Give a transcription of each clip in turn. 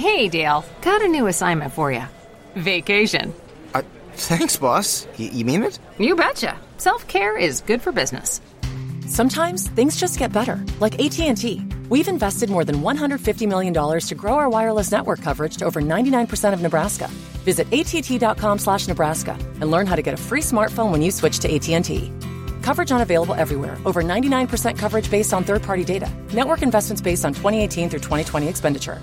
Hey, Dale. Got a new assignment for you. Vacation. Thanks, boss. You mean it? You betcha. Self-care is good for business. Sometimes things just get better, like AT&T. We've invested more than $150 million to grow our wireless network coverage to over 99% of Nebraska. Visit att.com/Nebraska and learn how to get a free smartphone when you switch to AT&T. Coverage unavailable everywhere. Over 99% coverage based on third-party data. Network investments based on 2018 through 2020 expenditure.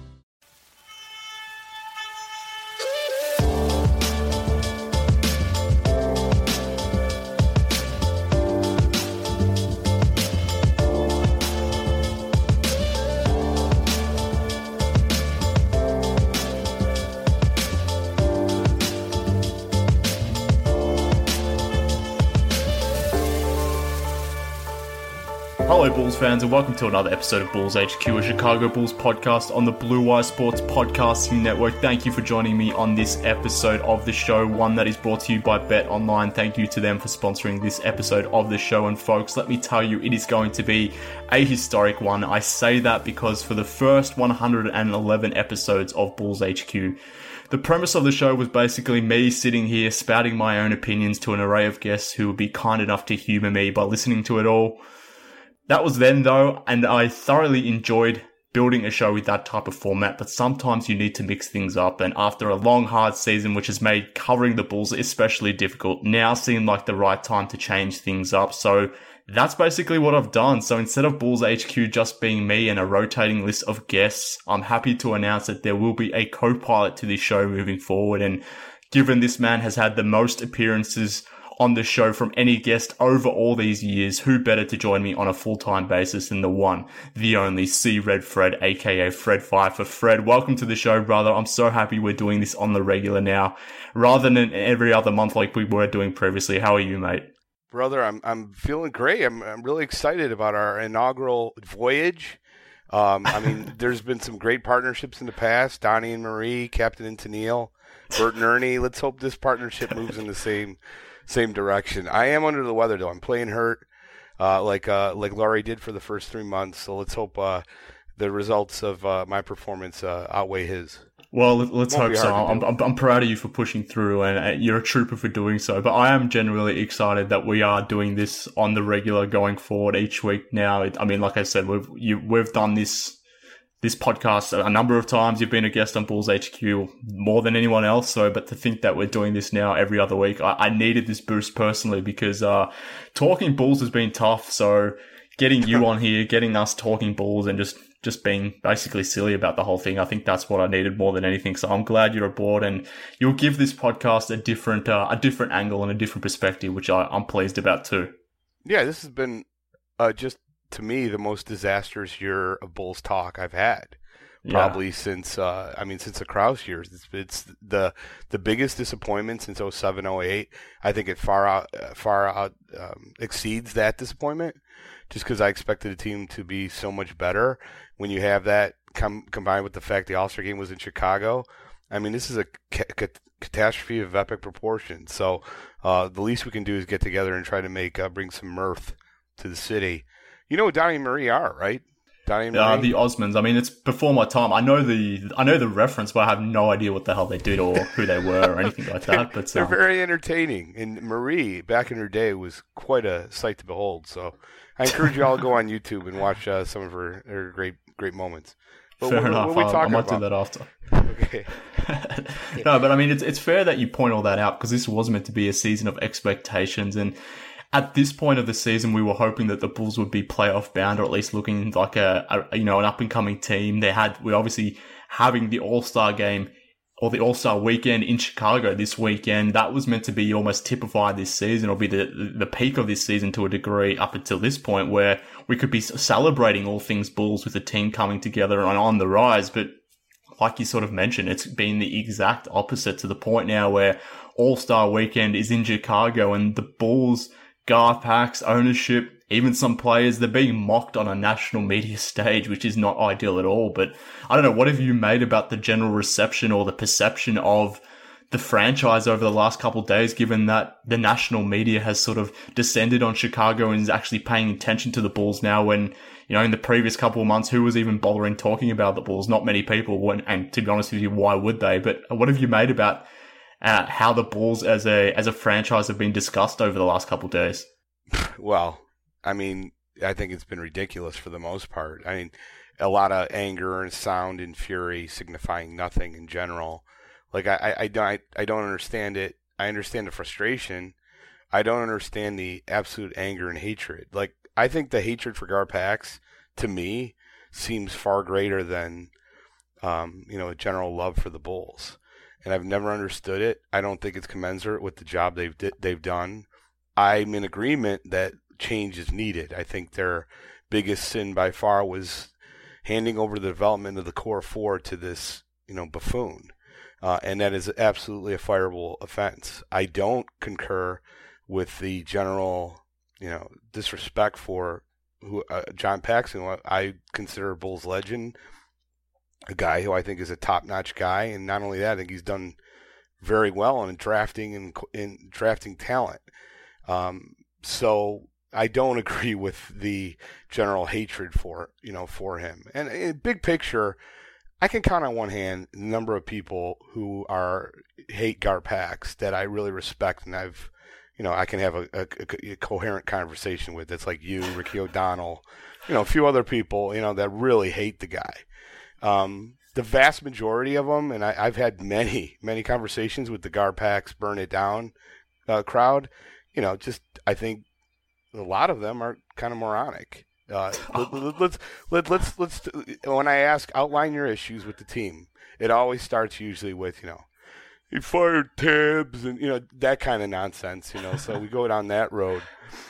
Hello Bulls fans and welcome to another episode of Bulls HQ, a Chicago Bulls podcast on the Blue Wire Sports Podcasting Network. Thank you for joining me on this episode of the show, one that is brought to you by Bet Online. Thank you to them for sponsoring this episode of the show. And folks, let me tell you, it is going to be a historic one. I say that because for the first 111 episodes of Bulls HQ, the premise of the show was basically me sitting here spouting my own opinions to an array of guests who would be kind enough to humour me by listening to it all. That was then though, and I thoroughly enjoyed building a show with that type of format, but sometimes you need to mix things up, and after a long, hard season which has made covering the Bulls especially difficult, now seemed like the right time to change things up. So that's basically what I've done. So instead of Bulls HQ just being me and a rotating list of guests, I'm happy to announce that there will be a co-pilot to this show moving forward, and given this man has had the most appearances on the show from any guest over all these years, who better to join me on a full-time basis than the one, the only C Red Fred, aka Fred Pfeiffer. Fred, welcome to the show, brother. I'm so happy we're doing this on the regular now, rather than every other month like we were doing previously. How are you, mate? Brother, I'm feeling great. I'm really excited about our inaugural voyage. I mean, there's been some great partnerships in the past. Donnie and Marie, Captain and Tennille, Bert and Ernie. Let's hope this partnership moves in the same direction. I am under the weather though. I'm playing hurt, like Laurie did for the first 3 months. So let's hope the results of my performance outweigh his. Well, let's hope so. I'm proud of you for pushing through, and you're a trooper for doing so. But I am genuinely excited that we are doing this on the regular going forward each week now. I mean, like I said, we've done this podcast a number of times. You've been a guest on Bulls HQ more than anyone else. But to think that we're doing this now every other week, I needed this boost personally because talking Bulls has been tough. So getting you on here, getting us talking Bulls and just being basically silly about the whole thing, I think that's what I needed more than anything. So I'm glad you're aboard, and you'll give this podcast a different angle and a different perspective, which I'm pleased about too. Yeah, this has been just, to me, the most disastrous year of Bulls talk I've had, probably since the Krause years. It's the biggest disappointment since 07, 08. I think it far out exceeds that disappointment, just because I expected the team to be so much better. When you have that combined with the fact the All-Star game was in Chicago, I mean, this is a catastrophe of epic proportions. So the least we can do is get together and try to bring some mirth to the city. You know what Donnie and Marie are, right? Donnie and Marie? The Osmonds. I mean, it's before my time. I know the reference, but I have no idea what the hell they did or who they were or anything like that. But they're very entertaining. And Marie, back in her day, was quite a sight to behold. So I encourage you all to go on YouTube and watch some of her great moments. But fair enough. I might do that after. Okay. No, but I mean, it's fair that you point all that out, because this was meant to be a season of expectations, and at this point of the season, we were hoping that the Bulls would be playoff bound, or at least looking like an up and coming team. We're obviously having the All-Star game or the All-Star weekend in Chicago this weekend. That was meant to be almost typify this season, or be the peak of this season to a degree up until this point, where we could be celebrating all things Bulls with the team coming together and on the rise. But like you sort of mentioned, it's been the exact opposite, to the point now where All-Star weekend is in Chicago, and the Bulls, Garth Pax, ownership, even some players, they're being mocked on a national media stage, which is not ideal at all. But I don't know, what have you made about the general reception or the perception of the franchise over the last couple of days, given that the national media has sort of descended on Chicago and is actually paying attention to the Bulls now when, in the previous couple of months, who was even bothering talking about the Bulls? Not many people. And to be honest with you, why would they? But what have you made about how the Bulls as a franchise have been discussed over the last couple of days? Well, I mean, I think it's been ridiculous for the most part. I mean, a lot of anger and sound and fury signifying nothing in general. Like, I don't understand it. I understand the frustration. I don't understand the absolute anger and hatred. Like, I think the hatred for Garpax, to me, seems far greater than, a general love for the Bulls. And I've never understood it. I don't think it's commensurate with the job they've done. I'm in agreement that change is needed. I think their biggest sin by far was handing over the development of the core four to this, buffoon. And that is absolutely a fireable offense. I don't concur with the general, disrespect for John Paxson, who I consider a Bulls legend, a guy who I think is a top-notch guy. And not only that, I think he's done very well in drafting and in drafting talent. So I don't agree with the general hatred for him. And big picture, I can count on one hand the number of people who hate Garpax that I really respect, and I can have a coherent conversation with. That's like you, Ricky O'Donnell, a few other people, that really hate the guy. The vast majority of them, and I've had many, many conversations with the Garpax burn it down crowd. I think a lot of them are kind of moronic. Let's when I ask, outline your issues with the team, it always starts usually with, he fired Tibbs and, that kind of nonsense, so we go down that road.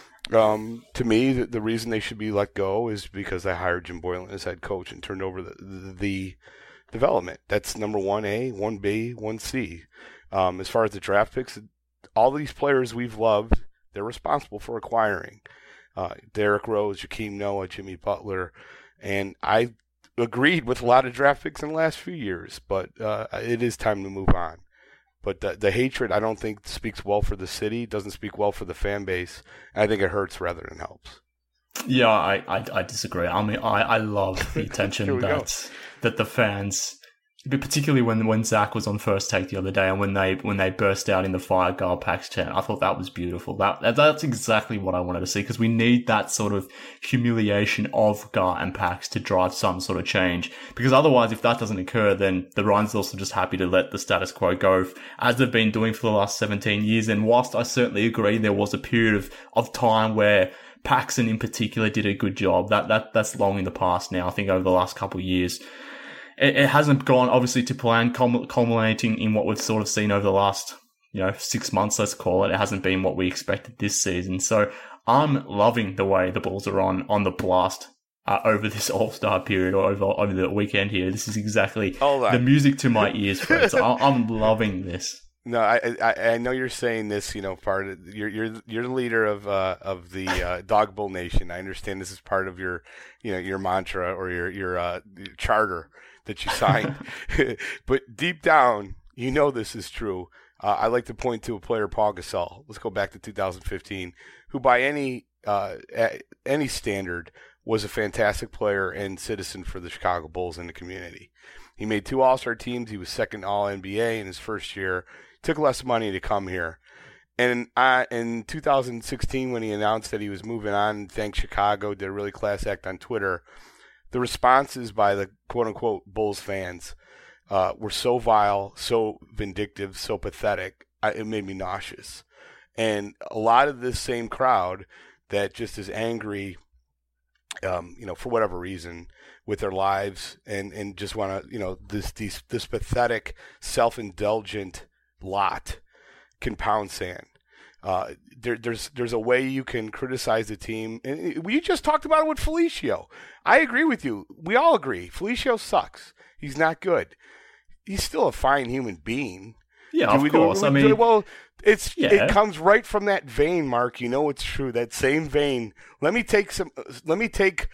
To me, the reason they should be let go is because they hired Jim Boylan as head coach and turned over the development. That's number 1A, 1B, 1C. As far as the draft picks, all these players we've loved, they're responsible for acquiring. Derrick Rose, Joakim Noah, Jimmy Butler, and I agreed with a lot of draft picks in the last few years, but it is time to move on. But the hatred, I don't think, speaks well for the city, doesn't speak well for the fan base. I think it hurts rather than helps. Yeah, I disagree. I mean, I love the attention that the fans, particularly when Zach was on First Take the other day and when they burst out in the Fire Garpax chant. I thought that was beautiful. That's exactly what I wanted to see, because we need that sort of humiliation of Gar and Pax to drive some sort of change. Because otherwise, if that doesn't occur, then the Reinsdorfs are just happy to let the status quo go, as they've been doing for the last 17 years. And whilst I certainly agree there was a period of time where Paxson in particular did a good job, that's long in the past now. I think over the last couple of years, it hasn't gone, obviously, to plan, culminating in what we've sort of seen over the last, 6 months, let's call it. It hasn't been what we expected this season. So I'm loving the way the Bulls are on the blast over this All-Star period, or over the weekend here. This is exactly the music to my ears, Fred. So I'm loving this. No, I know you're saying this, part of you're the leader of the Dog Bull Nation. I understand this is part of your, your mantra or your charter that you signed. But deep down, this is true. I like to point to a player, Paul Gasol. Let's go back to 2015, who by any standard was a fantastic player and citizen for the Chicago Bulls in the community. He made 2 All-Star teams. He was second All-NBA in his first year. Took less money to come here. And in 2016, when he announced that he was moving on and thanked Chicago, did a really class act on Twitter, the responses by the quote-unquote Bulls fans were so vile, so vindictive, so pathetic, it made me nauseous. And a lot of this same crowd that just is angry, for whatever reason, with their lives and just want to, this pathetic, self-indulgent lot can pound sand. There's a way you can criticize the team. And we just talked about it with Felicio. I agree with you. We all agree. Felicio sucks. He's not good. He's still a fine human being. Yeah, of course. It comes right from that vein, Mark. It's true. That same vein. Let me take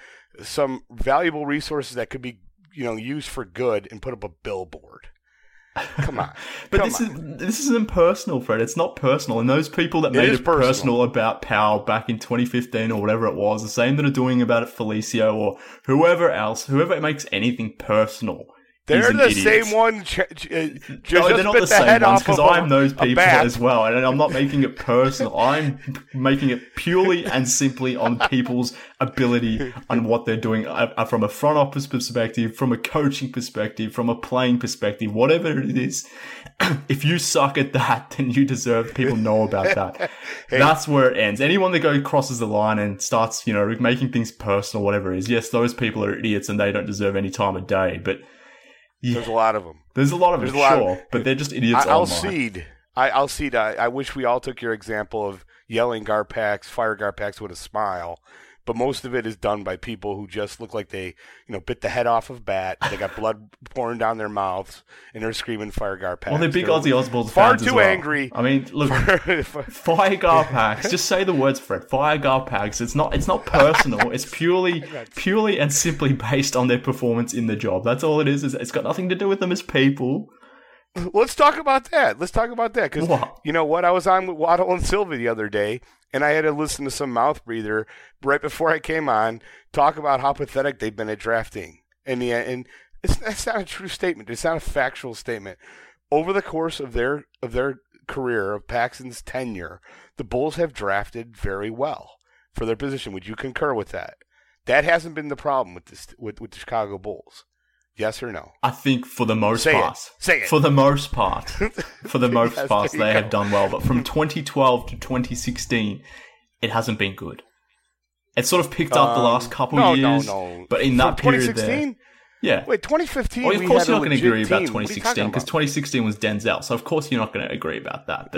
some valuable resources that could be, used for good and put up a billboard. Come on. But this isn't personal, Fred. It's not personal. And those people that made it personal about Powell back in 2015 or whatever it was, the same that are doing about it Felicio or whoever else, whoever makes anything personal. They're the same one. They're not the same ones because I'm those people as well, and I'm not making it personal. I'm making it purely and simply on people's ability and what they're doing from a front office perspective, from a coaching perspective, from a playing perspective, whatever it is. If you suck at that, then you deserve people know about that. Hey. That's where it ends. Anyone that crosses the line and starts, making things personal, whatever it is, yes, those people are idiots and they don't deserve any time of day, but. Yeah. There's a lot of them. There's a lot of them, sure, but they're just idiots online. I'll cede. I wish we all took your example of yelling Garpax, fire Garpax with a smile, but most of it is done by people who just look like they, bit the head off of Bat. They got blood pouring down their mouths, and they're screaming fire Garpax. Well, they're big Aussie Osballs far fans too as well. Angry. I mean, look, fire Garpax. Just say the words, Fred. Fire Garpax. It's not personal. It's purely and simply based on their performance in the job. That's all it is. It's got nothing to do with them as people. Let's talk about that. Because, you know what? I was on with Waddle and Silva the other day, and I had to listen to some mouth breather right before I came on talk about how pathetic they've been at drafting. And that's not a true statement. It's not a factual statement. Over the course of their career, of Paxton's tenure, the Bulls have drafted very well for their position. Would you concur with that? That hasn't been the problem with the Chicago Bulls. Yes or no? I think for the most part. Say it. For the most part. They have done well. But from 2012 to 2016, it hasn't been good. It's sort of picked up the last couple years. No. But in that period 2016? Yeah. Wait, 2015? Well, of course you're not going to agree about 2016 because 2016 was Denzel. So of course you're not going to agree about that.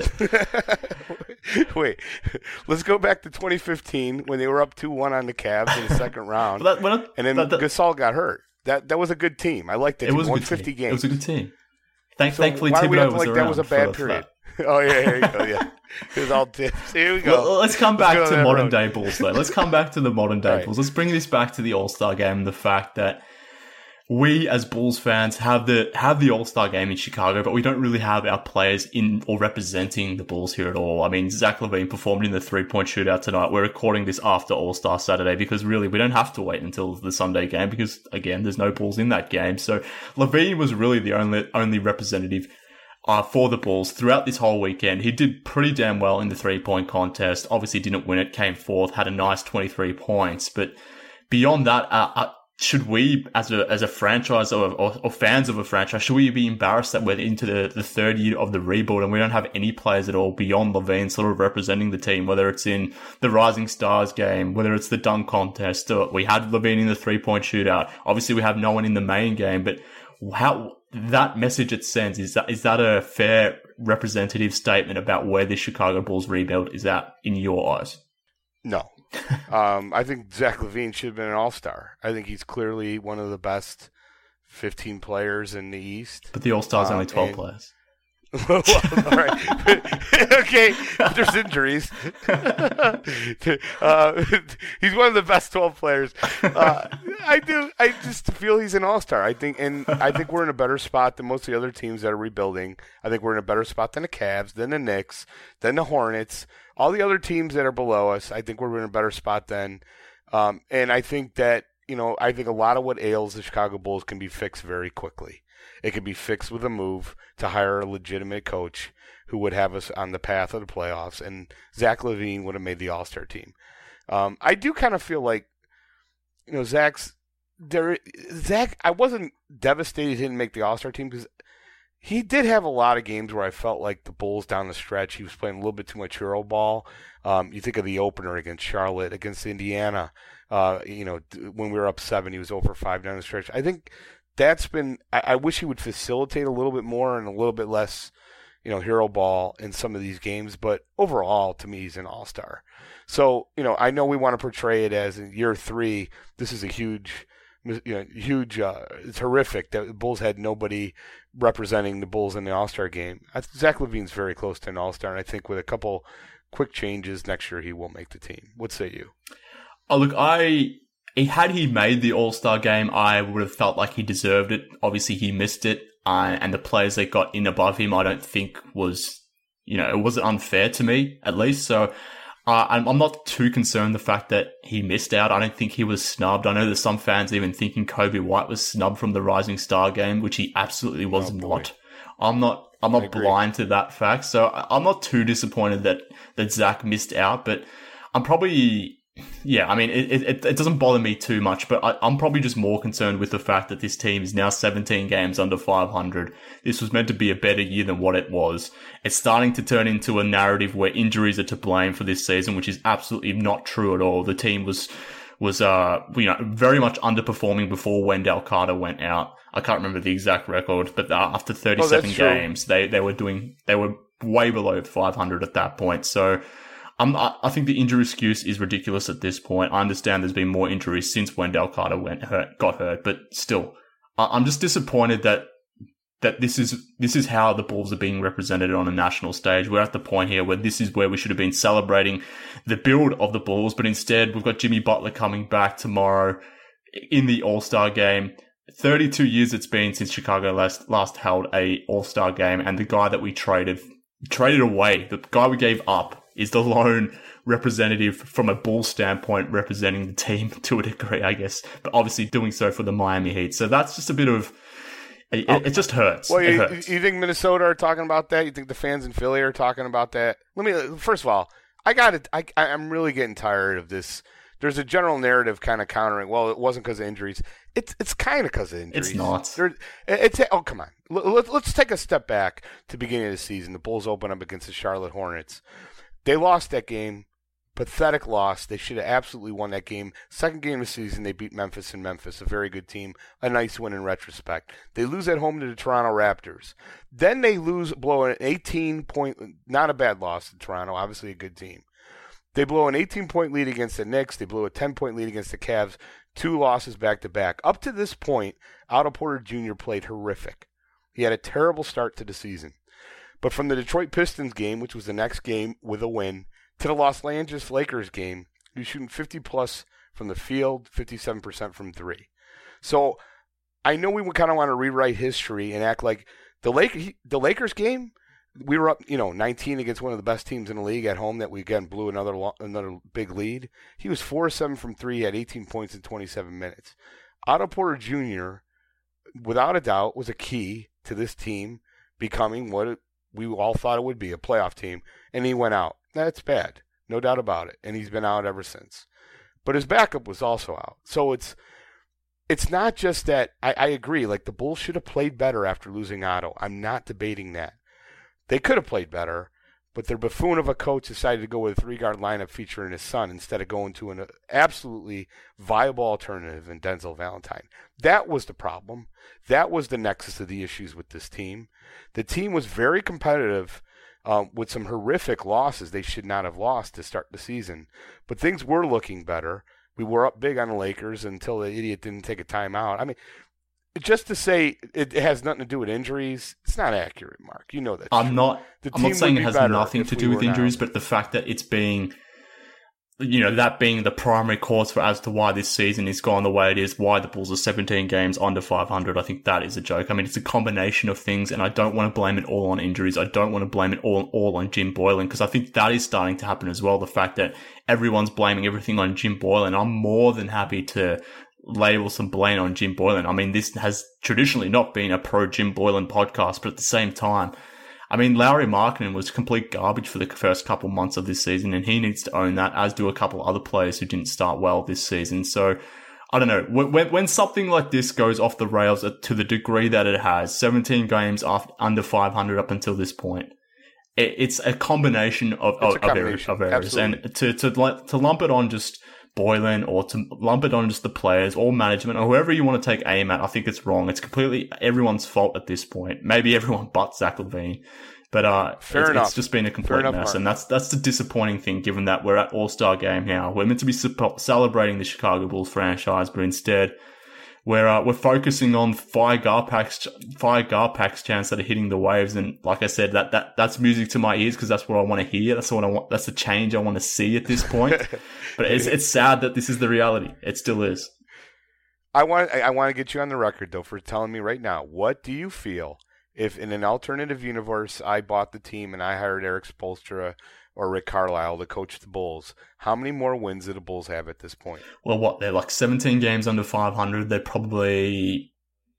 But wait, let's go back to 2015 when they were up 2-1 on the Cavs in the second round. And then Gasol got hurt. That was a good team. I liked it. It was 150 games. It was a good team. Thankfully, Thibodeau was around. That was a bad period. Oh, yeah, here you go, yeah. It was all tips. Here we go. Well, let's come back to modern-day Bulls, though. Let's come back to the modern-day Bulls. Let's bring this back to the All-Star Game and the fact that we, as Bulls fans, have the All-Star Game in Chicago, but we don't really have our players in or representing the Bulls here at all. I mean, Zach LaVine performed in the three-point shootout tonight. We're recording this after All-Star Saturday because really we don't have to wait until the Sunday game because, again, there's no Bulls in that game. So LaVine was really the only representative for the Bulls throughout this whole weekend. He did pretty damn well in the three-point contest. Obviously didn't win it, came fourth, had a nice 23 points. But beyond that, should we, as a franchise or fans of a franchise, should we be embarrassed that we're into the third year of the rebuild and we don't have any players at all beyond LaVine sort of representing the team, whether it's in the Rising Stars game, whether it's the dunk contest, or we had LaVine in the three-point shootout. Obviously, we have no one in the main game, but how that message it sends, is that a fair representative statement about where the Chicago Bulls rebuild is at in your eyes? No. I think Zach LaVine should have been an all-star. I think he's clearly one of the best 15 players in the East. But the all-star's only 12 players. Well, all right. Okay, there's injuries. He's one of the best 12 players. I just feel he's an all-star. I think we're in a better spot than most of the other teams that are rebuilding. I think we're in a better spot than the Cavs, than the Knicks, than the Hornets. All the other teams that are below us, I think we're in a better spot than. And I think that, I think a lot of what ails the Chicago Bulls can be fixed very quickly. It can be fixed with a move to hire a legitimate coach who would have us on the path of the playoffs, and Zach LaVine would have made the All-Star team. I do kind of feel like, Zach, I wasn't devastated he didn't make the All-Star team because he did have a lot of games where I felt like the Bulls down the stretch, he was playing a little bit too much hero ball. You think of the opener against Charlotte, against Indiana, when we were up 7, he was over 5 down the stretch. I think that's been, I wish he would facilitate a little bit more and a little bit less, hero ball in some of these games. But overall, to me, he's an all-star. So, I know we want to portray it as in year 3, this is a huge, it's horrific that the Bulls had nobody representing the Bulls in the all-star game. Zach LaVine's very close to an all-star, and I think with a couple quick changes next year, he will make the team. What say you? Oh, look, had he made the All-Star game, I would have felt like he deserved it. Obviously, he missed it. and the players they got in above him, I don't think was, it wasn't unfair to me, at least. So I'm not too concerned the fact that he missed out. I don't think he was snubbed. I know there's some fans even thinking Kobe White was snubbed from the Rising Star game, which he absolutely was not. I'm not blind to that fact. So I'm not too disappointed that Zach missed out, but I'm probably, it doesn't bother me too much, but I'm probably just more concerned with the fact that this team is now 17 games under 500. This was meant to be a better year than what it was. It's starting to turn into a narrative where injuries are to blame for this season, which is absolutely not true at all. The team was very much underperforming before Wendell Carter went out. I can't remember the exact record, but after 37 games, they were way below 500 at that point. So I think the injury excuse is ridiculous at this point. I understand there's been more injuries since Wendell Carter got hurt, but still, I'm just disappointed that this is how the Bulls are being represented on a national stage. We're at the point here where this is where we should have been celebrating the build of the Bulls, but instead we've got Jimmy Butler coming back tomorrow in the All-Star game. 32 years it's been since Chicago last held a All-Star game, and the guy that we traded away, the guy we gave up, is the lone representative from a Bulls standpoint representing the team to a degree, I guess, but obviously doing so for the Miami Heat. So that's just a bit of, it just hurts. Well, it hurts. You think Minnesota are talking about that? You think the fans in Philly are talking about that? First of all, I'm really getting tired of this. There's a general narrative kind of countering, well, it wasn't because of injuries. It's kind of because of injuries. It's not. Oh, come on. Let's take a step back to the beginning of the season. The Bulls open up against the Charlotte Hornets. They lost that game. Pathetic loss. They should have absolutely won that game. Second game of the season, they beat Memphis in Memphis, a very good team. A nice win in retrospect. They lose at home to the Toronto Raptors. Then they blow an 18-point, not a bad loss to Toronto, obviously a good team. They blow an 18-point lead against the Knicks. They blew a 10-point lead against the Cavs. 2 losses back-to-back. Up to this point, Otto Porter Jr. played horrific. He had a terrible start to the season. But from the Detroit Pistons game, which was the next game with a win, to the Los Angeles Lakers game, he was shooting 50-plus from the field, 57% from 3. So I know we kind of want to rewrite history and act like the Lakers game, we were up, 19 against one of the best teams in the league at home that we, again, blew another big lead. He was 4-7 from 3, had 18 points in 27 minutes. Otto Porter Jr., without a doubt, was a key to this team becoming what we all thought it would be, a playoff team, and he went out. That's bad, no doubt about it, and he's been out ever since. But his backup was also out. So it's not just that. I agree, like the Bulls should have played better after losing Otto. I'm not debating that. They could have played better, but their buffoon of a coach decided to go with a 3-guard lineup featuring his son instead of going to an absolutely viable alternative in Denzel Valentine. That was the problem. That was the nexus of the issues with this team. The team was very competitive with some horrific losses they should not have lost to start the season. But things were looking better. We were up big on the Lakers until the idiot didn't take a timeout. I mean, just to say it has nothing to do with injuries, it's not accurate, Mark. You know that. I'm not saying it has nothing to do with injuries, but the fact that it's being, that being the primary cause as to why this season is gone the way it is, why the Bulls are 17 games under 500, I think that is a joke. I mean, it's a combination of things, and I don't want to blame it all on injuries. I don't want to blame it all on Jim Boylen, because I think that is starting to happen as well. The fact that everyone's blaming everything on Jim Boylen. I'm more than happy to label some blame on Jim Boylen. I mean, this has traditionally not been a pro Jim Boylen podcast, but at the same time, I mean, Lauri Markkanen was complete garbage for the first couple months of this season, and he needs to own that, as do a couple other players who didn't start well this season. So, I don't know. When something like this goes off the rails to the degree that it has, 17 games under 500 up until this point, it's a combination of errors. Absolutely. And to lump it on just Boylen, or to lump it on just the players or management or whoever you want to take aim at, I think it's wrong. It's completely everyone's fault at this point. Maybe everyone but Zach LaVine. But it's just been a complete mess. And that's the disappointing thing, given that we're at All-Star game now. We're meant to be celebrating the Chicago Bulls franchise, but instead we're focusing on five Garpax chants that are hitting the waves. And like I said, that's music to my ears, because that's what I want to hear. That's what I want. That's the change I want to see at this point. But it's sad that this is the reality. It still is. I want to get you on the record, though, for telling me right now, what do you feel if in an alternative universe I bought the team and I hired Eric Spoelstra or Rick Carlisle to coach the Bulls? How many more wins do the Bulls have at this point? Well, they're like 17 games under 500. They're probably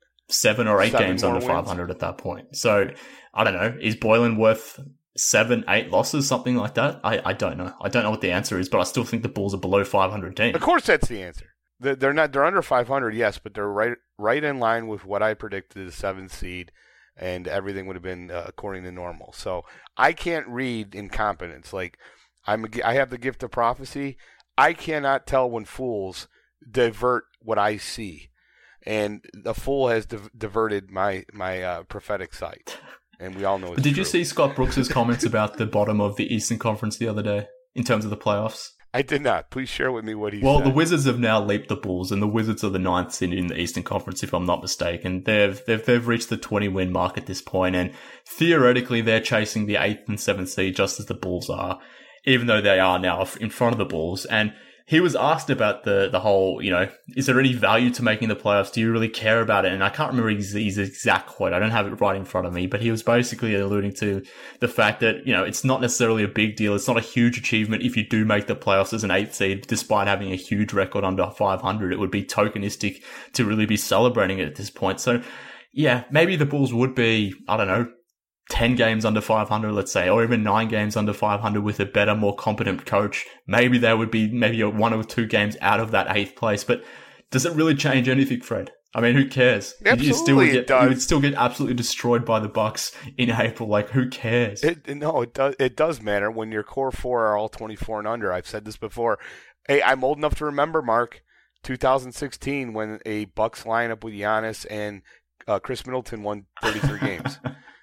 7 or 8 games under 500 at that point. So, I don't know. Is Boylen worth 7, 8 losses, something like that? I don't know. I don't know what the answer is, but I still think the Bulls are below 500 team. Of course that's the answer. They're not. They're under 500, yes, but they're right in line with what I predicted, the 7th seed, and everything would have been according to normal. So I can't read incompetence. Like I have the gift of prophecy. I cannot tell when fools divert what I see, and the fool has diverted my prophetic sight, and we all know it's But did true. you see Scott Brooks' comments about the bottom of the Eastern Conference the other day in terms of the playoffs? I did not. Please share with me what he said. Well, the Wizards have now leaped the Bulls, and the Wizards are the 9th seed in the Eastern Conference, if I'm not mistaken. They've reached the 20-win mark at this point, and theoretically they're chasing the 8th and 7th seed just as the Bulls are, even though they are now in front of the Bulls. And he was asked about the whole, is there any value to making the playoffs? Do you really care about it? And I can't remember his exact quote. I don't have it right in front of me, but he was basically alluding to the fact that, it's not necessarily a big deal. It's not a huge achievement if you do make the playoffs as an 8th seed, despite having a huge record under 500. It would be tokenistic to really be celebrating it at this point. So yeah, maybe the Bulls would be, 10 games under 500, let's say, or even 9 games under 500 with a better, more competent coach. Maybe they would be 1 or 2 games out of that 8th place. But does it really change anything, Fred? I mean, who cares? Absolutely, it does. You would still get absolutely destroyed by the Bucks in April. Like, who cares? It does matter when your core 4 are all 24 and under. I've said this before. Hey, I'm old enough to remember, Mark, 2016 when a Bucks lineup with Giannis and Chris Middleton won 33 games.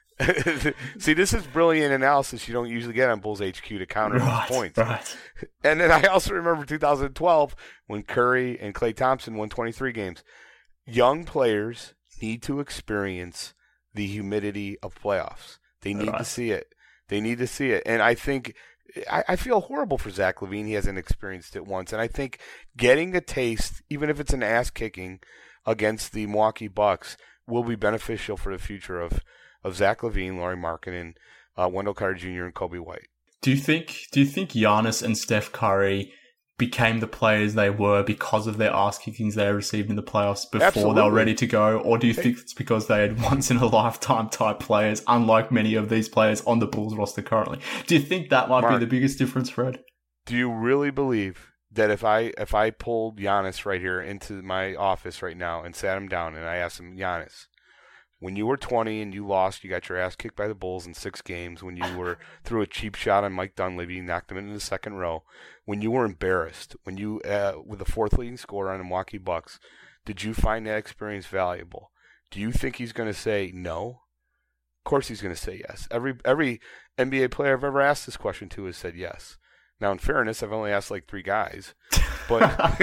See, this is brilliant analysis you don't usually get on Bulls HQ to counter these points. Right. And then I also remember 2012 when Curry and Klay Thompson won 23 games. Young players need to experience the humidity of playoffs. They need to see it. They need to see it. And I think I feel horrible for Zach LaVine. He hasn't experienced it once. And I think getting a taste, even if it's an ass-kicking against the Milwaukee Bucks, will be beneficial for the future of Zach LaVine, Lauri Markkanen, Wendell Carter Jr., and Kobe White. Do you think Giannis and Steph Curry became the players they were because of their ass kickings they received in the playoffs before they were ready to go? Or do you think it's because they had once in a lifetime type players, unlike many of these players on the Bulls roster currently? Do you think that might be the biggest difference, Fred? Do you really believe that if I pulled Giannis right here into my office right now and sat him down and I asked him, Giannis, when you were 20 and you lost, you got your ass kicked by the Bulls in 6 games. When you were threw a cheap shot on Mike Dunleavy, knocked him into the second row. When you were embarrassed, when you with the 4th leading scorer on the Milwaukee Bucks, did you find that experience valuable? Do you think he's going to say no? Of course he's going to say yes. Every NBA player I've ever asked this question to has said yes. Now, in fairness, I've only asked like 3 guys, but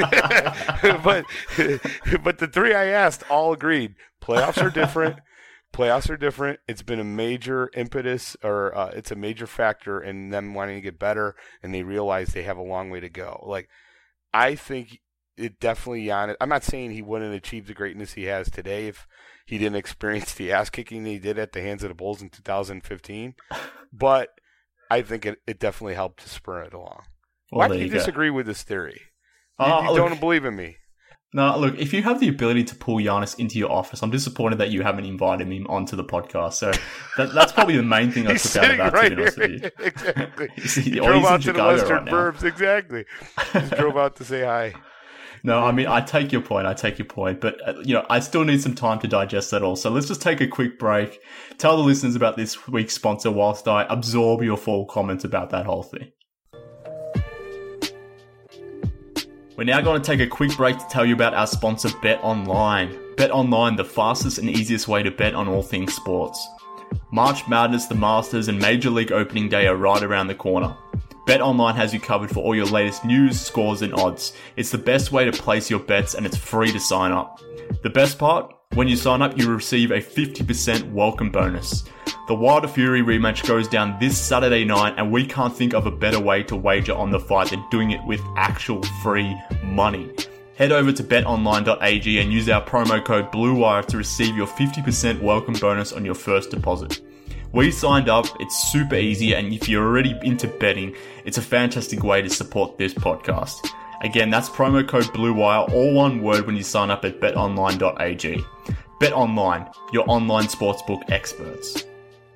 but the 3 I asked all agreed. Playoffs are different. Playoffs are different. It's been a major impetus, or it's a major factor in them wanting to get better, and they realize they have a long way to go. Like, I think it definitely, Giannis, I'm not saying he wouldn't achieve the greatness he has today if he didn't experience the ass kicking he did at the hands of the Bulls in 2015, but I think it definitely helped to spur it along. Why do you disagree with this theory? You don't believe in me. No, look, if you have the ability to pull Giannis into your office, I'm disappointed that you haven't invited him onto the podcast. So that's probably the main thing I took out about it, to be honest with you. Exactly. He drove out to the Western right Burbs. Exactly. Just drove out to say hi. No, I mean, I take your point, but, I still need some time to digest that all. So let's just take a quick break, tell the listeners about this week's sponsor whilst I absorb your full comments about that whole thing. We're now going to take a quick break to tell you about our sponsor, BetOnline. BetOnline, the fastest and easiest way to bet on all things sports. March Madness, the Masters, and Major League Opening Day are right around the corner. BetOnline has you covered for all your latest news, scores, and odds. It's the best way to place your bets, and it's free to sign up. The best part? When you sign up, you receive a 50% welcome bonus. The Wilder Fury rematch goes down this Saturday night, and we can't think of a better way to wager on the fight than doing it with actual free money. Head over to betonline.ag and use our promo code BLUEWIRE to receive your 50% welcome bonus on your first deposit. We signed up, it's super easy, and if you're already into betting, it's a fantastic way to support this podcast. Again, that's promo code BLUEWIRE, all one word when you sign up at betonline.ag. BetOnline, your online sportsbook experts.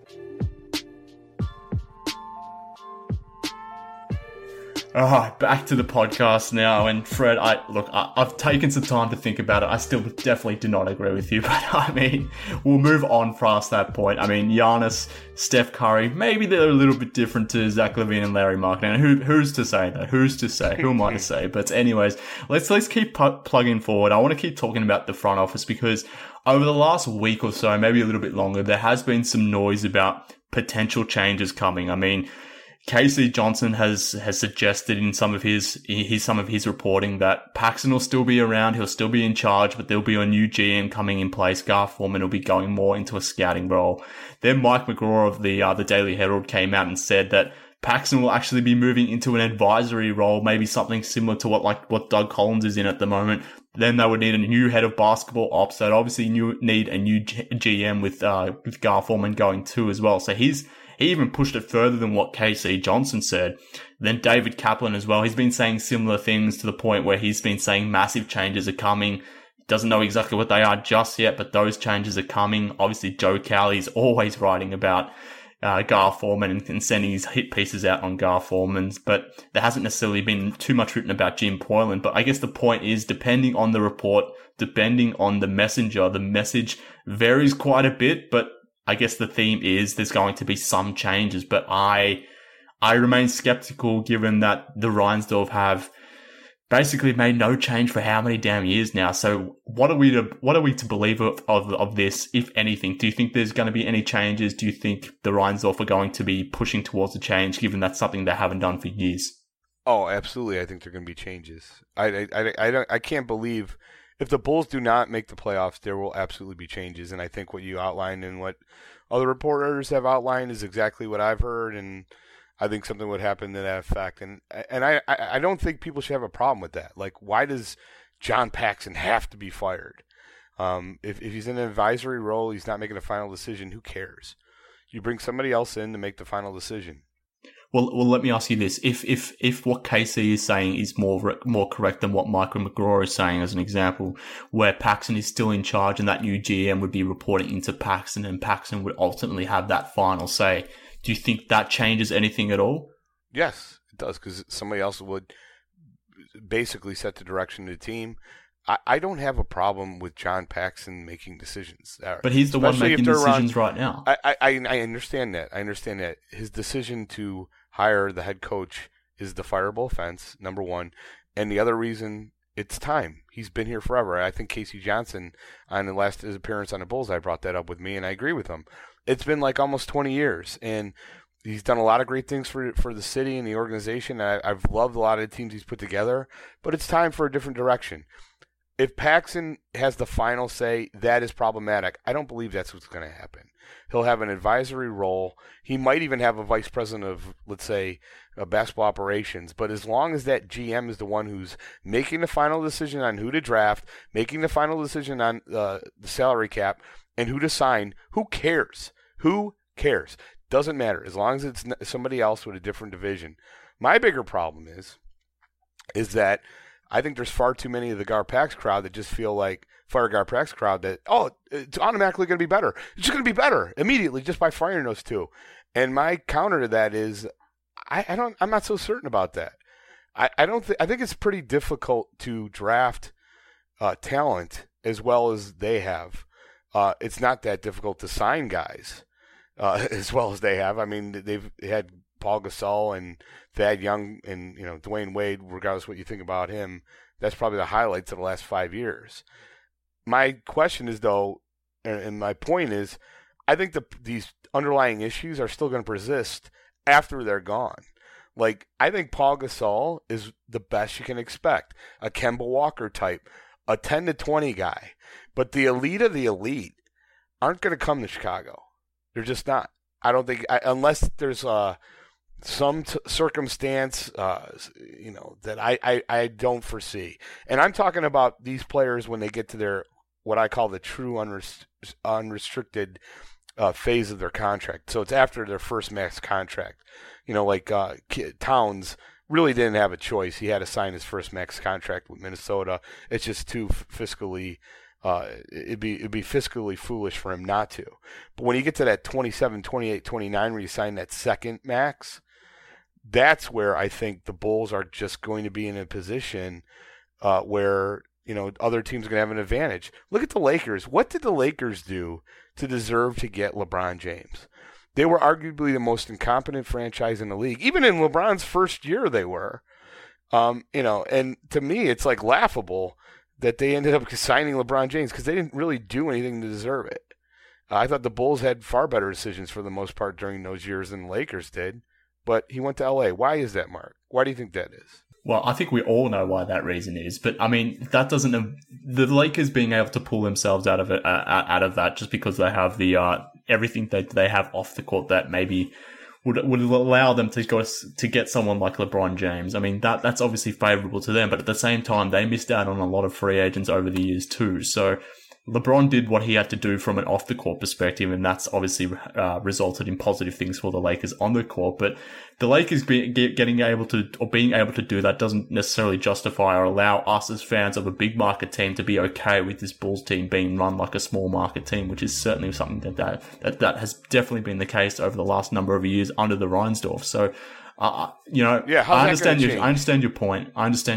Alright, back to the podcast now, and Fred, I've taken some time to think about it. I still definitely do not agree with you, but I mean, we'll move on past that point. I mean, Giannis, Steph Curry, maybe they're a little bit different to Zach LaVine and Larry Markkinen. Who's to say though? Who's to say? Who am I to say? But anyways, let's keep plugging forward. I want to keep talking about the front office because over the last week or so, maybe a little bit longer, there has been some noise about potential changes coming. I mean, KC Johnson has suggested in some of his reporting that Paxson will still be around, he'll still be in charge, but there'll be a new GM coming in place. Gar Forman will be going more into a scouting role. Then Mike McGraw of the Daily Herald came out and said that Paxson will actually be moving into an advisory role, maybe something similar to what Doug Collins is in at the moment. Then they would need a new head of basketball ops. They'd obviously need a new GM with Gar Forman going too as well. So he even pushed it further than what KC Johnson said. Then David Kaplan as well. He's been saying similar things to the point where he's been saying massive changes are coming. Doesn't know exactly what they are just yet, but those changes are coming. Obviously, Joe Cowley's always writing about Gar Forman and sending his hit pieces out on Gar Forman's, but there hasn't necessarily been too much written about Jim Poylan. But I guess the point is, depending on the report, depending on the messenger, the message varies quite a bit, but I guess the theme is there's going to be some changes, but I remain skeptical given that the Reinsdorf have basically made no change for how many damn years now. So what are we to believe of this, if anything? Do you think there's going to be any changes? Do you think the Reinsdorf are going to be pushing towards a change, given that's something they haven't done for years? Oh, absolutely. I think there are going to be changes. I can't believe if the Bulls do not make the playoffs, there will absolutely be changes. And I think what you outlined and what other reporters have outlined is exactly what I've heard. And I think something would happen to that effect. And I don't think people should have a problem with that. Like, why does John Paxson have to be fired? If he's in an advisory role, he's not making a final decision, who cares? You bring somebody else in to make the final decision. Well, let me ask you this. If what KC is saying is more correct than what Michael McGraw is saying, as an example, where Paxson is still in charge and that new GM would be reporting into Paxson and Paxson would ultimately have that final say, do you think that changes anything at all? Yes, it does, because somebody else would basically set the direction of the team. I don't have a problem with John Paxson making decisions. But he's the one making decisions right now. I understand that. I understand that. His decision to hire the head coach is the fireable offense, number one. And the other reason, it's time. He's been here forever. I think KC Johnson, on the last his appearance on the Bulls, I brought that up with me, and I agree with him. It's been like almost 20 years, and he's done a lot of great things for the city and the organization. I've loved a lot of the teams he's put together, but it's time for a different direction. If Paxson has the final say, that is problematic. I don't believe that's what's going to happen. He'll have an advisory role. He might even have a vice president of, let's say, basketball operations. But as long as that GM is the one who's making the final decision on who to draft, making the final decision on the salary cap, and who to sign, who cares? Who cares? Doesn't matter. As long as it's somebody else with a different division. My bigger problem is that I think there's far too many of the Gar-Pax crowd that just feel like, fire Gar-Pax crowd, that, it's automatically going to be better. It's just going to be better immediately just by firing those two. And my counter to that is, I'm not so certain about that. I think it's pretty difficult to draft talent as well as they have. It's not that difficult to sign guys as well as they have. I mean, they've had Paul Gasol and Thad Young and Dwayne Wade, regardless of what you think about him. That's probably the highlights of the last 5 years. My question is, though, and my point is, I think these underlying issues are still going to persist after they're gone. Like, I think Paul Gasol is the best you can expect, a Kemba Walker type, a 10 to 20 guy. But the elite of the elite aren't going to come to Chicago. They're just not. I don't think, unless there's some circumstance, that I don't foresee. And I'm talking about these players when they get to their, what I call the true unrestricted phase of their contract. So it's after their first max contract. Like Towns really didn't have a choice. He had to sign his first max contract with Minnesota. It's just too fiscally, it'd be fiscally foolish for him not to. But when you get to that 27, 28, 29 where you sign that second max, that's where I think the Bulls are just going to be in a position where other teams are going to have an advantage. Look at the Lakers. What did the Lakers do to deserve to get LeBron James? They were arguably the most incompetent franchise in the league. Even in LeBron's first year, they were. And to me, it's like laughable that they ended up signing LeBron James because they didn't really do anything to deserve it. I thought the Bulls had far better decisions for the most part during those years than the Lakers did. But he went to L.A. Why is that, Mark? Why do you think that is? Well, I think we all know why that reason is, but I mean that doesn't. The Lakers being able to pull themselves out of it, out of that, just because they have the everything that they have off the court that maybe would allow them to get someone like LeBron James. I mean that's obviously favorable to them, but at the same time they missed out on a lot of free agents over the years too. So LeBron did what he had to do from an off-the-court perspective, and that's obviously resulted in positive things for the Lakers on the court. But the Lakers being able to do that doesn't necessarily justify or allow us as fans of a big-market team to be okay with this Bulls team being run like a small-market team, which is certainly something that has definitely been the case over the last number of years under the Reinsdorf. So, I understand your point.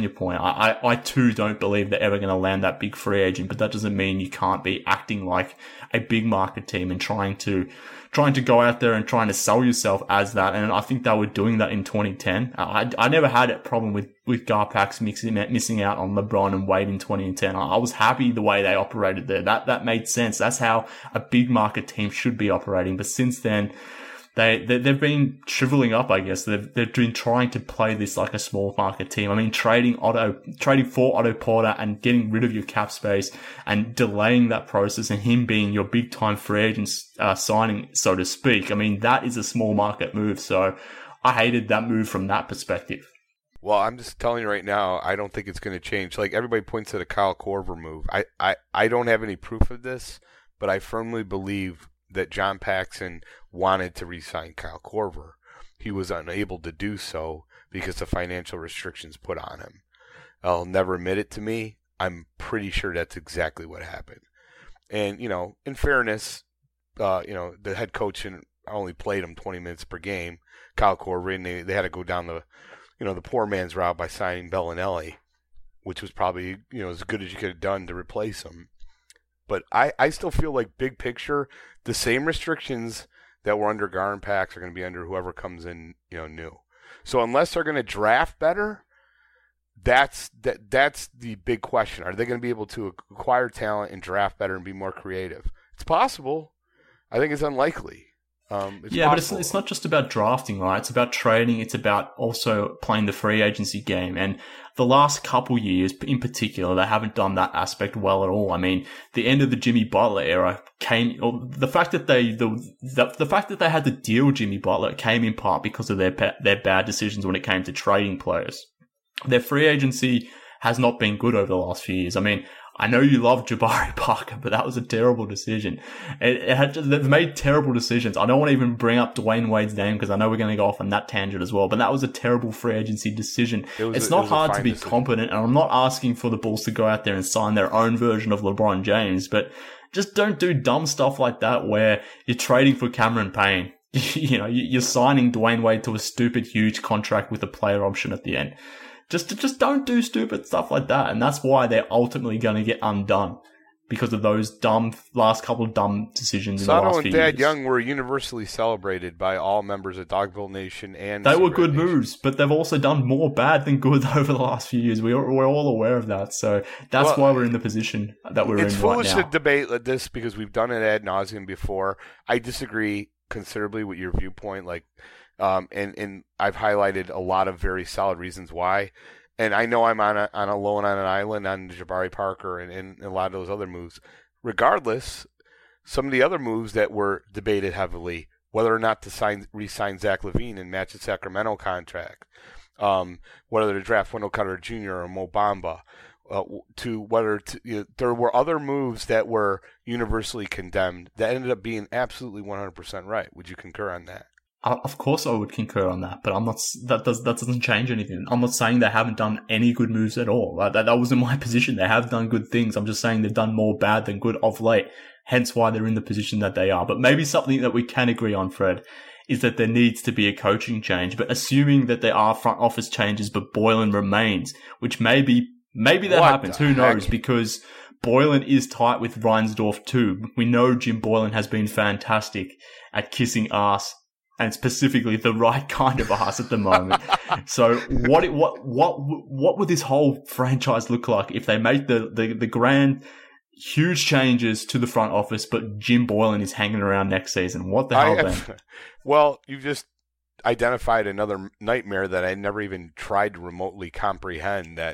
I too don't believe they're ever going to land that big free agent, but that doesn't mean you can't be acting like a big market team and trying to go out there and trying to sell yourself as that. And I think they were doing that in 2010. I never had a problem with Garpax missing out on LeBron and Wade in 2010. I was happy the way they operated there. That made sense. That's how a big market team should be operating. But since then, They've been shriveling up, I guess. They've been trying to play this like a small market team. I mean, trading for Otto Porter and getting rid of your cap space and delaying that process and him being your big time free agent signing, so to speak. I mean, that is a small market move. So I hated that move from that perspective. Well, I'm just telling you right now, I don't think it's going to change. Like everybody points to the Kyle Korver move. I don't have any proof of this, but I firmly believe that John Paxson wanted to re-sign Kyle Korver. He was unable to do so because of financial restrictions put on him. I'll never admit it to me. I'm pretty sure that's exactly what happened. And, in fairness, the head coach only played him 20 minutes per game, Kyle Korver, and they had to go down the poor man's route by signing Bellinelli, which was probably, as good as you could have done to replace him. But I still feel like big picture, the same restrictions that were under Gar and Pax are going to be under whoever comes in, new. So unless they're going to draft better, that's the big question. Are they going to be able to acquire talent and draft better and be more creative? It's possible. I think it's unlikely. But it's not just about drafting, right? It's about trading. It's about also playing the free agency game. And the last couple years, in particular, they haven't done that aspect well at all. I mean, the end of the Jimmy Butler era the fact that they had to deal with Jimmy Butler came in part because of their bad decisions when it came to trading players. Their free agency has not been good over the last few years. I mean, I know you love Jabari Parker, but that was a terrible decision. They've made terrible decisions. I don't want to even bring up Dwayne Wade's name because I know we're going to go off on that tangent as well, but that was a terrible free agency decision. It's not hard to be competent, and I'm not asking for the Bulls to go out there and sign their own version of LeBron James, but just don't do dumb stuff like that where you're trading for Cameron Payne. You're signing Dwayne Wade to a stupid, huge contract with a player option at the end. Just don't do stupid stuff like that. And that's why they're ultimately going to get undone because of those last couple of dumb decisions in the last few years. Sato and Thad Young were universally celebrated by all members of Dogville Nation and they were good moves, but they've also done more bad than good over the last few years. We're all aware of that. So that's why we're in the position that we're in right now. It's foolish to debate like this because we've done it ad nauseum before. I disagree considerably with your viewpoint. And I've highlighted a lot of very solid reasons why. And I know I'm alone on an island on Jabari Parker and a lot of those other moves. Regardless, some of the other moves that were debated heavily whether or not to re-sign Zach LaVine and match his Sacramento contract, whether to draft Wendell Carter Jr. or Mo Bamba, there were other moves that were universally condemned that ended up being absolutely 100% right. Would you concur on that? Of course I would concur on that, but I'm not. That doesn't change anything. I'm not saying they haven't done any good moves at all. That wasn't my position. They have done good things. I'm just saying they've done more bad than good of late. Hence why they're in the position that they are. But maybe something that we can agree on, Fred, is that there needs to be a coaching change. But assuming that there are front office changes, but Boylen remains, which maybe that happens. Who knows? Because Boylen is tight with Reinsdorf too. We know Jim Boylen has been fantastic at kissing ass, and specifically the right kind of ass at the moment. So what would this whole franchise look like if they make the grand, huge changes to the front office, but Jim Boylen is hanging around next season? What the hell then? Well, you just identified another nightmare that I never even tried to remotely comprehend, that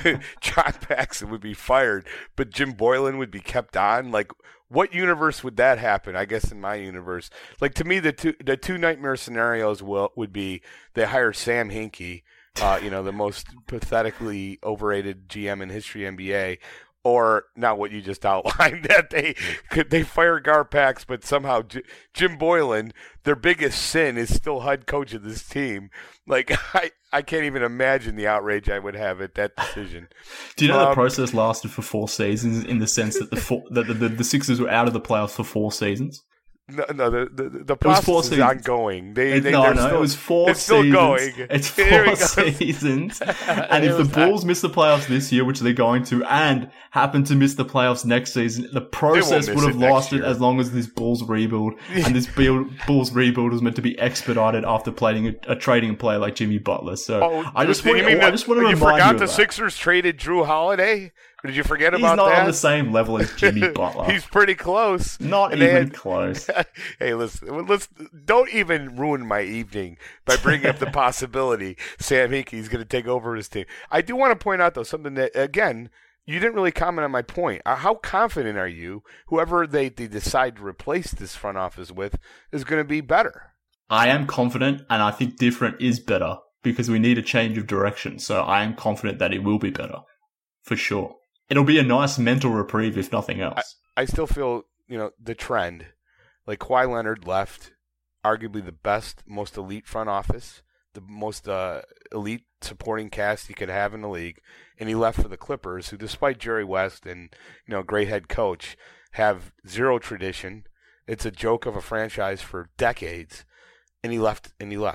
John Paxson would be fired, but Jim Boylen would be kept on. Like, what universe would that happen? I guess in my universe, like, to me, the two nightmare scenarios would be they hire Sam Hinkie, the most pathetically overrated GM in history NBA, or not what you just outlined, that they fire Garpax, but somehow Jim Boylen, their biggest sin, is still head coach of this team. Like, I can't even imagine the outrage I would have at that decision. Do you know the process lasted for 4 seasons, in the sense that the Sixers were out of the playoffs for 4 seasons? No, the process is ongoing. It was 4 it's seasons. Still going. It's 4 seasons. And if the Bulls miss the playoffs this year, which they're going to, and happen to miss the playoffs next season, the process would have lasted as long as this Bulls rebuild. And this Bulls rebuild was meant to be expedited after trading a player like Jimmy Butler. So I just want to remind you. You forgot the Sixers traded Drew Holiday? Did you forget about that? He's not on the same level as Jimmy Butler. He's pretty close. Not even close. Hey, listen, don't even ruin my evening by bringing up the possibility Sam Hinkie's going to take over his team. I do want to point out, though, something that, again, you didn't really comment on my point. How confident are you, whoever they decide to replace this front office with, is going to be better? I am confident, and I think different is better, because we need a change of direction. So I am confident that it will be better, for sure. It'll be a nice mental reprieve, if nothing else. I still feel, the trend. Like, Kawhi Leonard left arguably the best, most elite front office, the most elite supporting cast he could have in the league, and he left for the Clippers, who, despite Jerry West and, a great head coach, have zero tradition. It's a joke of a franchise for decades, and he left.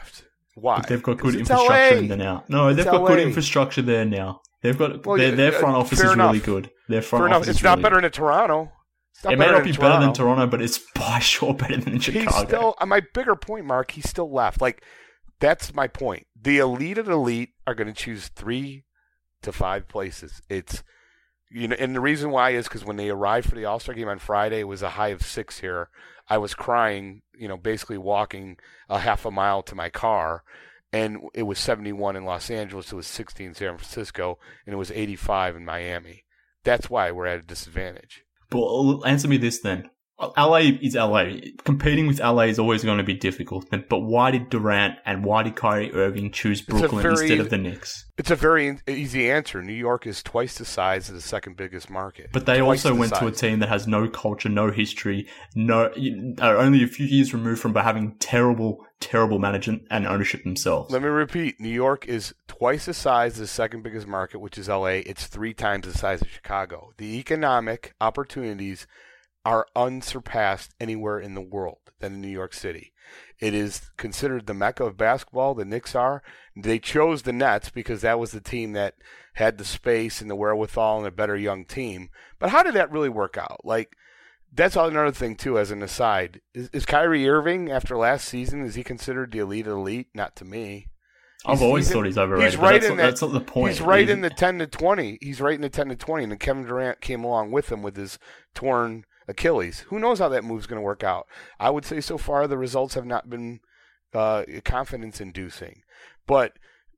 Why? But they've got good infrastructure in there now. No, they've got good infrastructure there now. They've got their front office is really good. Their front office is It's not better than Toronto. It may not be better than Toronto, but it's by sure better than Chicago. He's still, my bigger point, Mark, he still left. Like, that's my point. The elite of the elite are going to choose 3 to 5 places. It's, and the reason why is because when they arrived for the All-Star game on Friday, it was a high of 6 here. I was crying, basically walking a half a mile to my car. And it was 71 in Los Angeles, it was 60 in San Francisco, and it was 85 in Miami. That's why we're at a disadvantage. But answer me this then. LA is LA. Competing with LA is always going to be difficult. But why did Durant and why did Kyrie Irving choose Brooklyn instead of the Knicks? It's a very easy answer. New York is twice the size of the second biggest market. But they also went to a team that has no culture, no history, are only a few years removed from having terrible management and ownership themselves. Let me repeat. New York is twice the size of the second biggest market, which is LA. It's 3 times the size of Chicago. The economic opportunities are unsurpassed anywhere in the world than in New York City. It is considered the mecca of basketball. The Knicks are. They chose the Nets because that was the team that had the space and the wherewithal and a better young team. But how did that really work out? Like, that's another thing, too, as an aside. Is Kyrie Irving, after last season, is he considered the elite of elite? Not to me. I've always thought he's overrated. He's right that's not the point. He's right in the 10 to 20. He's right in the 10 to 20. And then Kevin Durant came along with him with his torn Achilles. Who knows how that move's going to work out? I would say so far the results have not been confidence-inducing. But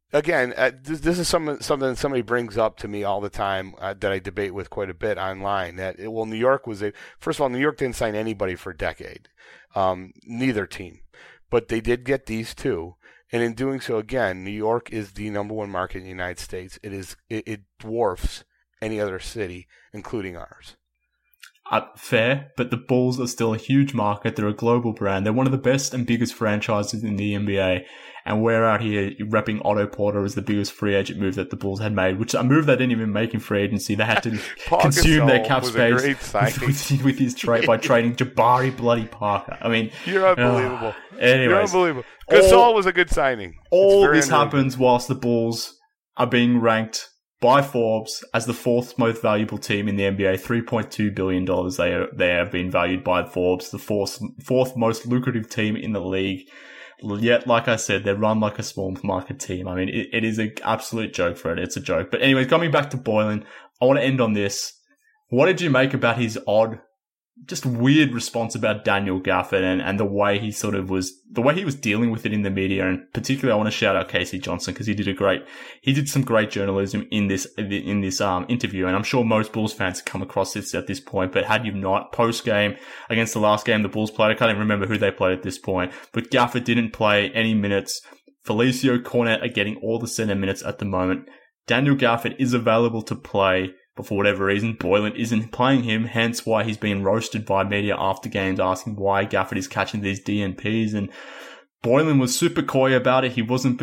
again, this is something that somebody brings up to me all the time that I debate with quite a bit online. New York first of all, New York didn't sign anybody for a decade, neither team, but they did get these two, and in doing so, again, New York is the number one market in the United States. It dwarfs any other city, including ours. Fair, but the Bulls are still a huge market. They're a global brand. They're one of the best and biggest franchises in the NBA. And we're out here repping Otto Porter as the biggest free agent move that the Bulls had made, which a move they didn't even make in free agency. They had to consume their cap space with his trade by trading Jabari bloody Parker. I mean, you're unbelievable. Anyways, you're unbelievable. Gasol was a good signing. All this happens whilst the Bulls are being ranked by Forbes as the fourth most valuable team in the NBA, $3.2 billion. They have been valued by Forbes, the fourth most lucrative team in the league. Yet, like I said, they're run like a small market team. I mean, it is an absolute joke for it. It's a joke. But anyways, coming back to Boylen, I want to end on this. What did you make about his just weird response about Daniel Gafford and the way he was dealing with it in the media? And particularly, I want to shout out Casey Johnson because he did some great journalism in this interview. And I'm sure most Bulls fans have come across this at this point, but had you not, post game against the last game the Bulls played, I can't even remember who they played at this point, but Gafford didn't play any minutes. Felicio, Cornet are getting all the center minutes at the moment. Daniel Gafford is available to play, but for whatever reason, Boylen isn't playing him, hence why he's being roasted by media after games asking why Gafford is catching these DNPs. And Boylen was super coy about it. He wasn't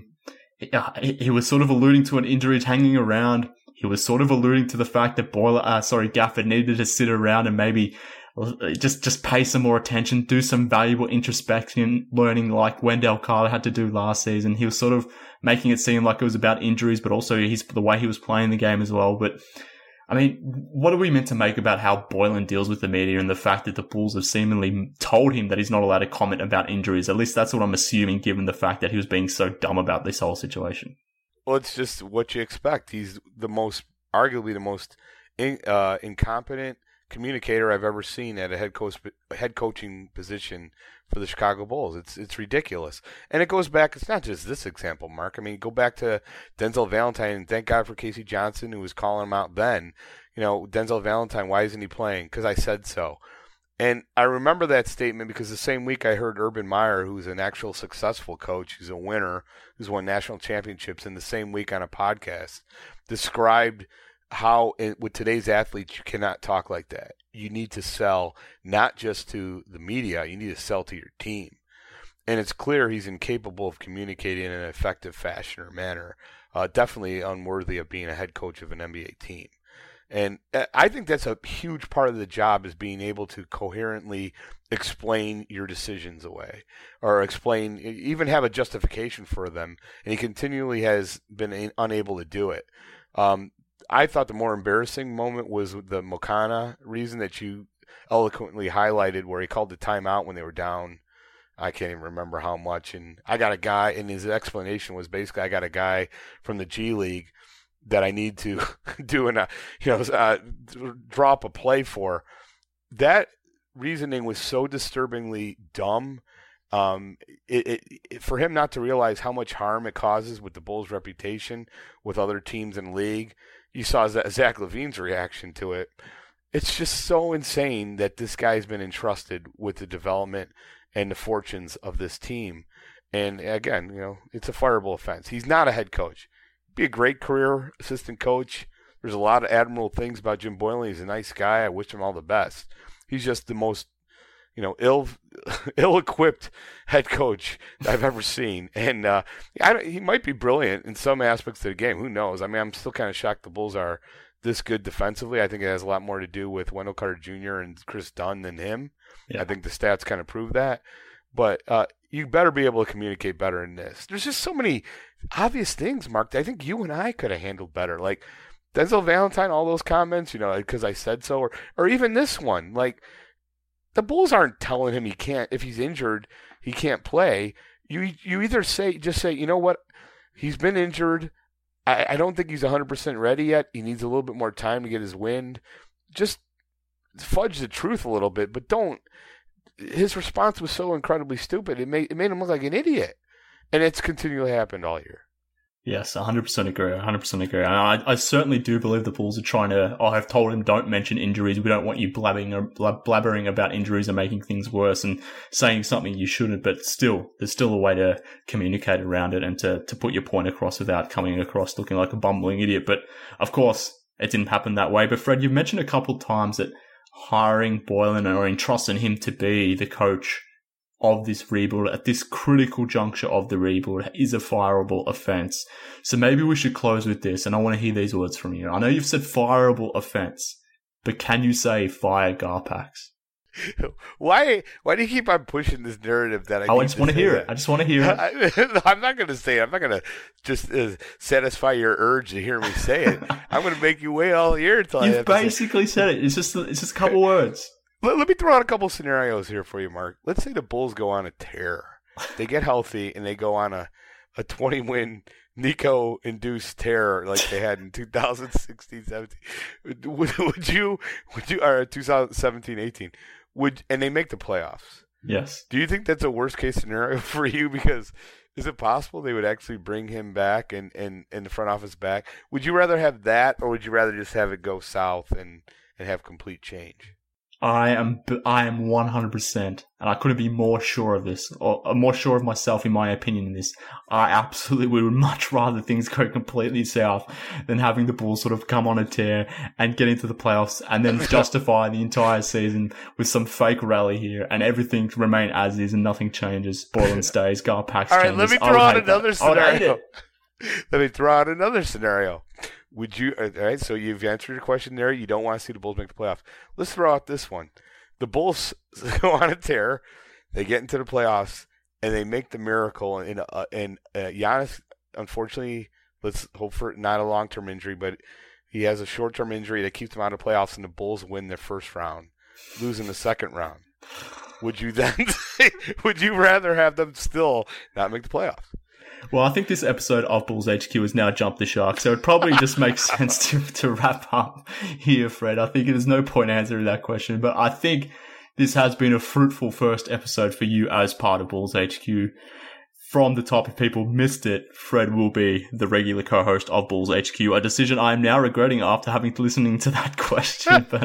he was sort of alluding to an injury hanging around. He was sort of alluding to the fact that Gafford needed to sit around and maybe just pay some more attention, do some valuable introspection, learning like Wendell Carter had to do last season. He was sort of making it seem like it was about injuries, but also the way he was playing the game as well. But I mean, what are we meant to make about how Boylen deals with the media and the fact that the Bulls have seemingly told him that he's not allowed to comment about injuries? At least that's what I'm assuming, given the fact that he was being so dumb about this whole situation. Well, it's just what you expect. He's arguably the most incompetent communicator I've ever seen at a head coaching position for the Chicago Bulls. It's ridiculous. And it goes back, it's not just this example, Mark. I mean, go back to Denzel Valentine, and thank God for Casey Johnson, who was calling him out then. You know, Denzel Valentine, why isn't he playing? Because I said so. And I remember that statement because the same week I heard Urban Meyer, who's an actual successful coach, who's a winner, who's won national championships, in the same week on a podcast, described how with today's athletes you cannot talk like that. You need to sell not just to the media, you need to sell to your team. And it's clear he's incapable of communicating in an effective fashion or manner. Definitely unworthy of being a head coach of an NBA team. And I think that's a huge part of the job, is being able to coherently explain your decisions away, or even have a justification for them. And he continually has been unable to do it. I thought the more embarrassing moment was the Mokana reason that you eloquently highlighted, where he called the timeout when they were down. I can't even remember how much. And I got a guy, and his explanation was basically, I got a guy from the G League that I need to drop a play for. That reasoning was so disturbingly dumb. For him not to realize how much harm it causes with the Bulls' reputation with other teams in the league. You saw Zach LaVine's reaction to it. It's just so insane that this guy's been entrusted with the development and the fortunes of this team. And again, it's a fireable offense. He's not a head coach. Be a great career assistant coach. There's a lot of admirable things about Jim Boylen. He's a nice guy. I wish him all the best. He's just the most, ill-equipped head coach I've ever seen. And he might be brilliant in some aspects of the game. Who knows? I mean, I'm still kind of shocked the Bulls are this good defensively. I think it has a lot more to do with Wendell Carter Jr. and Chris Dunn than him. Yeah. I think the stats kind of prove that. But you better be able to communicate better in this. There's just so many obvious things, Mark, that I think you and I could have handled better. Like Denzel Valentine, all those comments, because I said so. Or even this one. Like, the Bulls aren't telling him he can't, if he's injured, he can't play. You either just say, you know what, he's been injured. I don't think he's 100% ready yet. He needs a little bit more time to get his wind. Just fudge the truth a little bit, but don't. His response was so incredibly stupid. It made him look like an idiot. And it's continually happened all year. Yes, 100% agree. 100% agree. And I certainly do believe the Bulls are trying to. I've told him, don't mention injuries. We don't want you blabbering about injuries and making things worse and saying something you shouldn't. But still, there's still a way to communicate around it and to put your point across without coming across looking like a bumbling idiot. But of course, it didn't happen that way. But Fred, you've mentioned a couple of times that hiring Boylen or entrusting him to be the coach of this rebuild at this critical juncture of the rebuild is a fireable offense. So maybe we should close with this, and I want to hear these words from you. I know you've said fireable offense, but can you say fire Garpax? Why do you keep on pushing this narrative that I just want to hear it. I just want to hear it. I'm not going to say it. I'm not going to just satisfy your urge to hear me say it. I'm going to make you wait all year until You've basically said it. It's just a couple words. Let me throw out a couple scenarios here for you, Mark. Let's say the Bulls go on a tear. They get healthy and they go on a 20-win Nico-induced tear like they had in 2016-17. Would you, or 2017-18, and they make the playoffs? Yes. Do you think that's a worst-case scenario for you? Because is it possible they would actually bring him back and the front office back? Would you rather have that, or would you rather just have it go south and have complete change? I am 100%, and I couldn't be more sure of this, or more sure of myself in my opinion in this. I absolutely would much rather things go completely south than having the Bulls sort of come on a tear and get into the playoffs and then justify the entire season with some fake rally here and everything remain as is and nothing changes. Boylen stays, Garpax changes. All right, let me throw out another scenario. Let me throw out another scenario. Would you? All right, so you've answered your question there. You don't want to see the Bulls make the playoffs. Let's throw out this one. The Bulls go on a tear. They get into the playoffs, and they make the miracle. And Giannis, unfortunately, let's hope for not a long-term injury, but he has a short-term injury that keeps him out of playoffs, and the Bulls win their first round, lose in the second round. Would you then? Would you rather have them still not make the playoffs? Well, I think this episode of Bulls HQ has now jumped the shark, so it probably just makes sense to wrap up here, Fred. I think there's no point answering that question, but I think this has been a fruitful first episode for you as part of Bulls HQ. From the top, if people missed it, Fred will be the regular co-host of Bulls HQ, a decision I am now regretting after having to listening to that question. But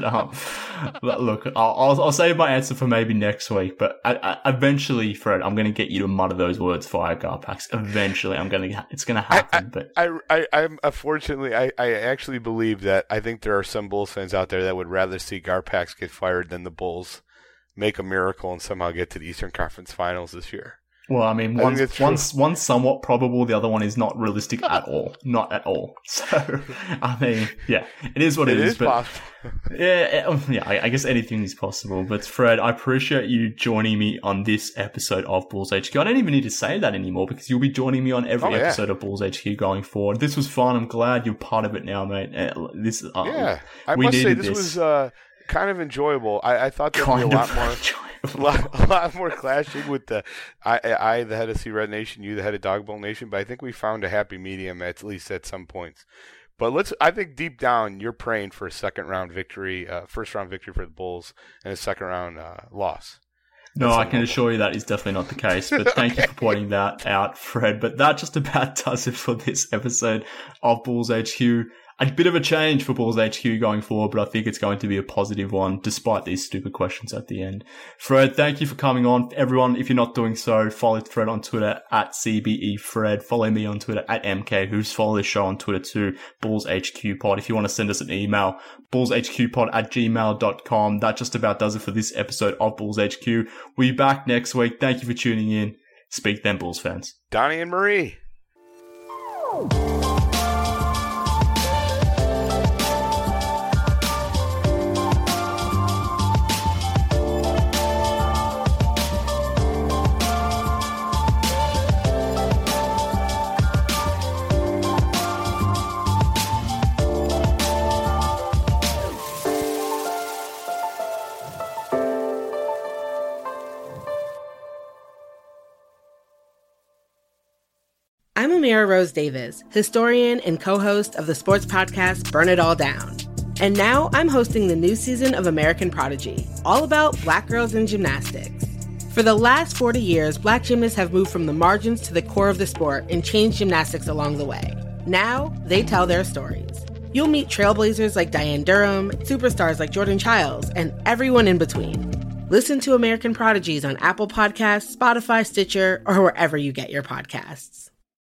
look, I'll save my answer for maybe next week. But eventually, Fred, I'm going to get you to mutter those words, fire Garpax. Eventually, it's going to happen. I'm unfortunately, I actually believe that I think there are some Bulls fans out there that would rather see Garpax get fired than the Bulls make a miracle and somehow get to the Eastern Conference Finals this year. Well, I mean, one's somewhat probable, the other one is not realistic at all. Not at all. So, I mean, yeah, it is what it is. But possible. I guess anything is possible. But Fred, I appreciate you joining me on this episode of Bulls HQ. I don't even need to say that anymore because you'll be joining me on every episode of Bulls HQ going forward. This was fun. I'm glad you're part of it now, mate. I must say this was kind of enjoyable. I thought there would be a lot more clashing with the the head of Sea Red Nation, you the head of Dog Bowl Nation, but I think we found a happy medium at least at some points. But I think deep down you're praying for a first round victory for the Bulls and a second round loss. No, I can assure you that is definitely not the case, but thank you for pointing that out, Fred. But that just about does it for this episode of Bulls HQ. A bit of a change for Bulls HQ going forward, but I think it's going to be a positive one, despite these stupid questions at the end. Fred, thank you for coming on. Everyone, if you're not doing so, follow Fred on Twitter at CBEFred. Follow me on Twitter at MKWho's. Follow the show on Twitter too, Bulls HQ Pod. If you want to send us an email, bullshqpod@gmail.com. That just about does it for this episode of Bulls HQ. We'll be back next week. Thank you for tuning in. Speak then, Bulls fans. Donnie and Marie. I'm Amira Rose Davis, historian and co-host of the sports podcast Burn It All Down. And now I'm hosting the new season of American Prodigy, all about Black girls in gymnastics. For the last 40 years, Black gymnasts have moved from the margins to the core of the sport and changed gymnastics along the way. Now, they tell their stories. You'll meet trailblazers like Diane Durham, superstars like Jordan Childs, and everyone in between. Listen to American Prodigies on Apple Podcasts, Spotify, Stitcher, or wherever you get your podcasts.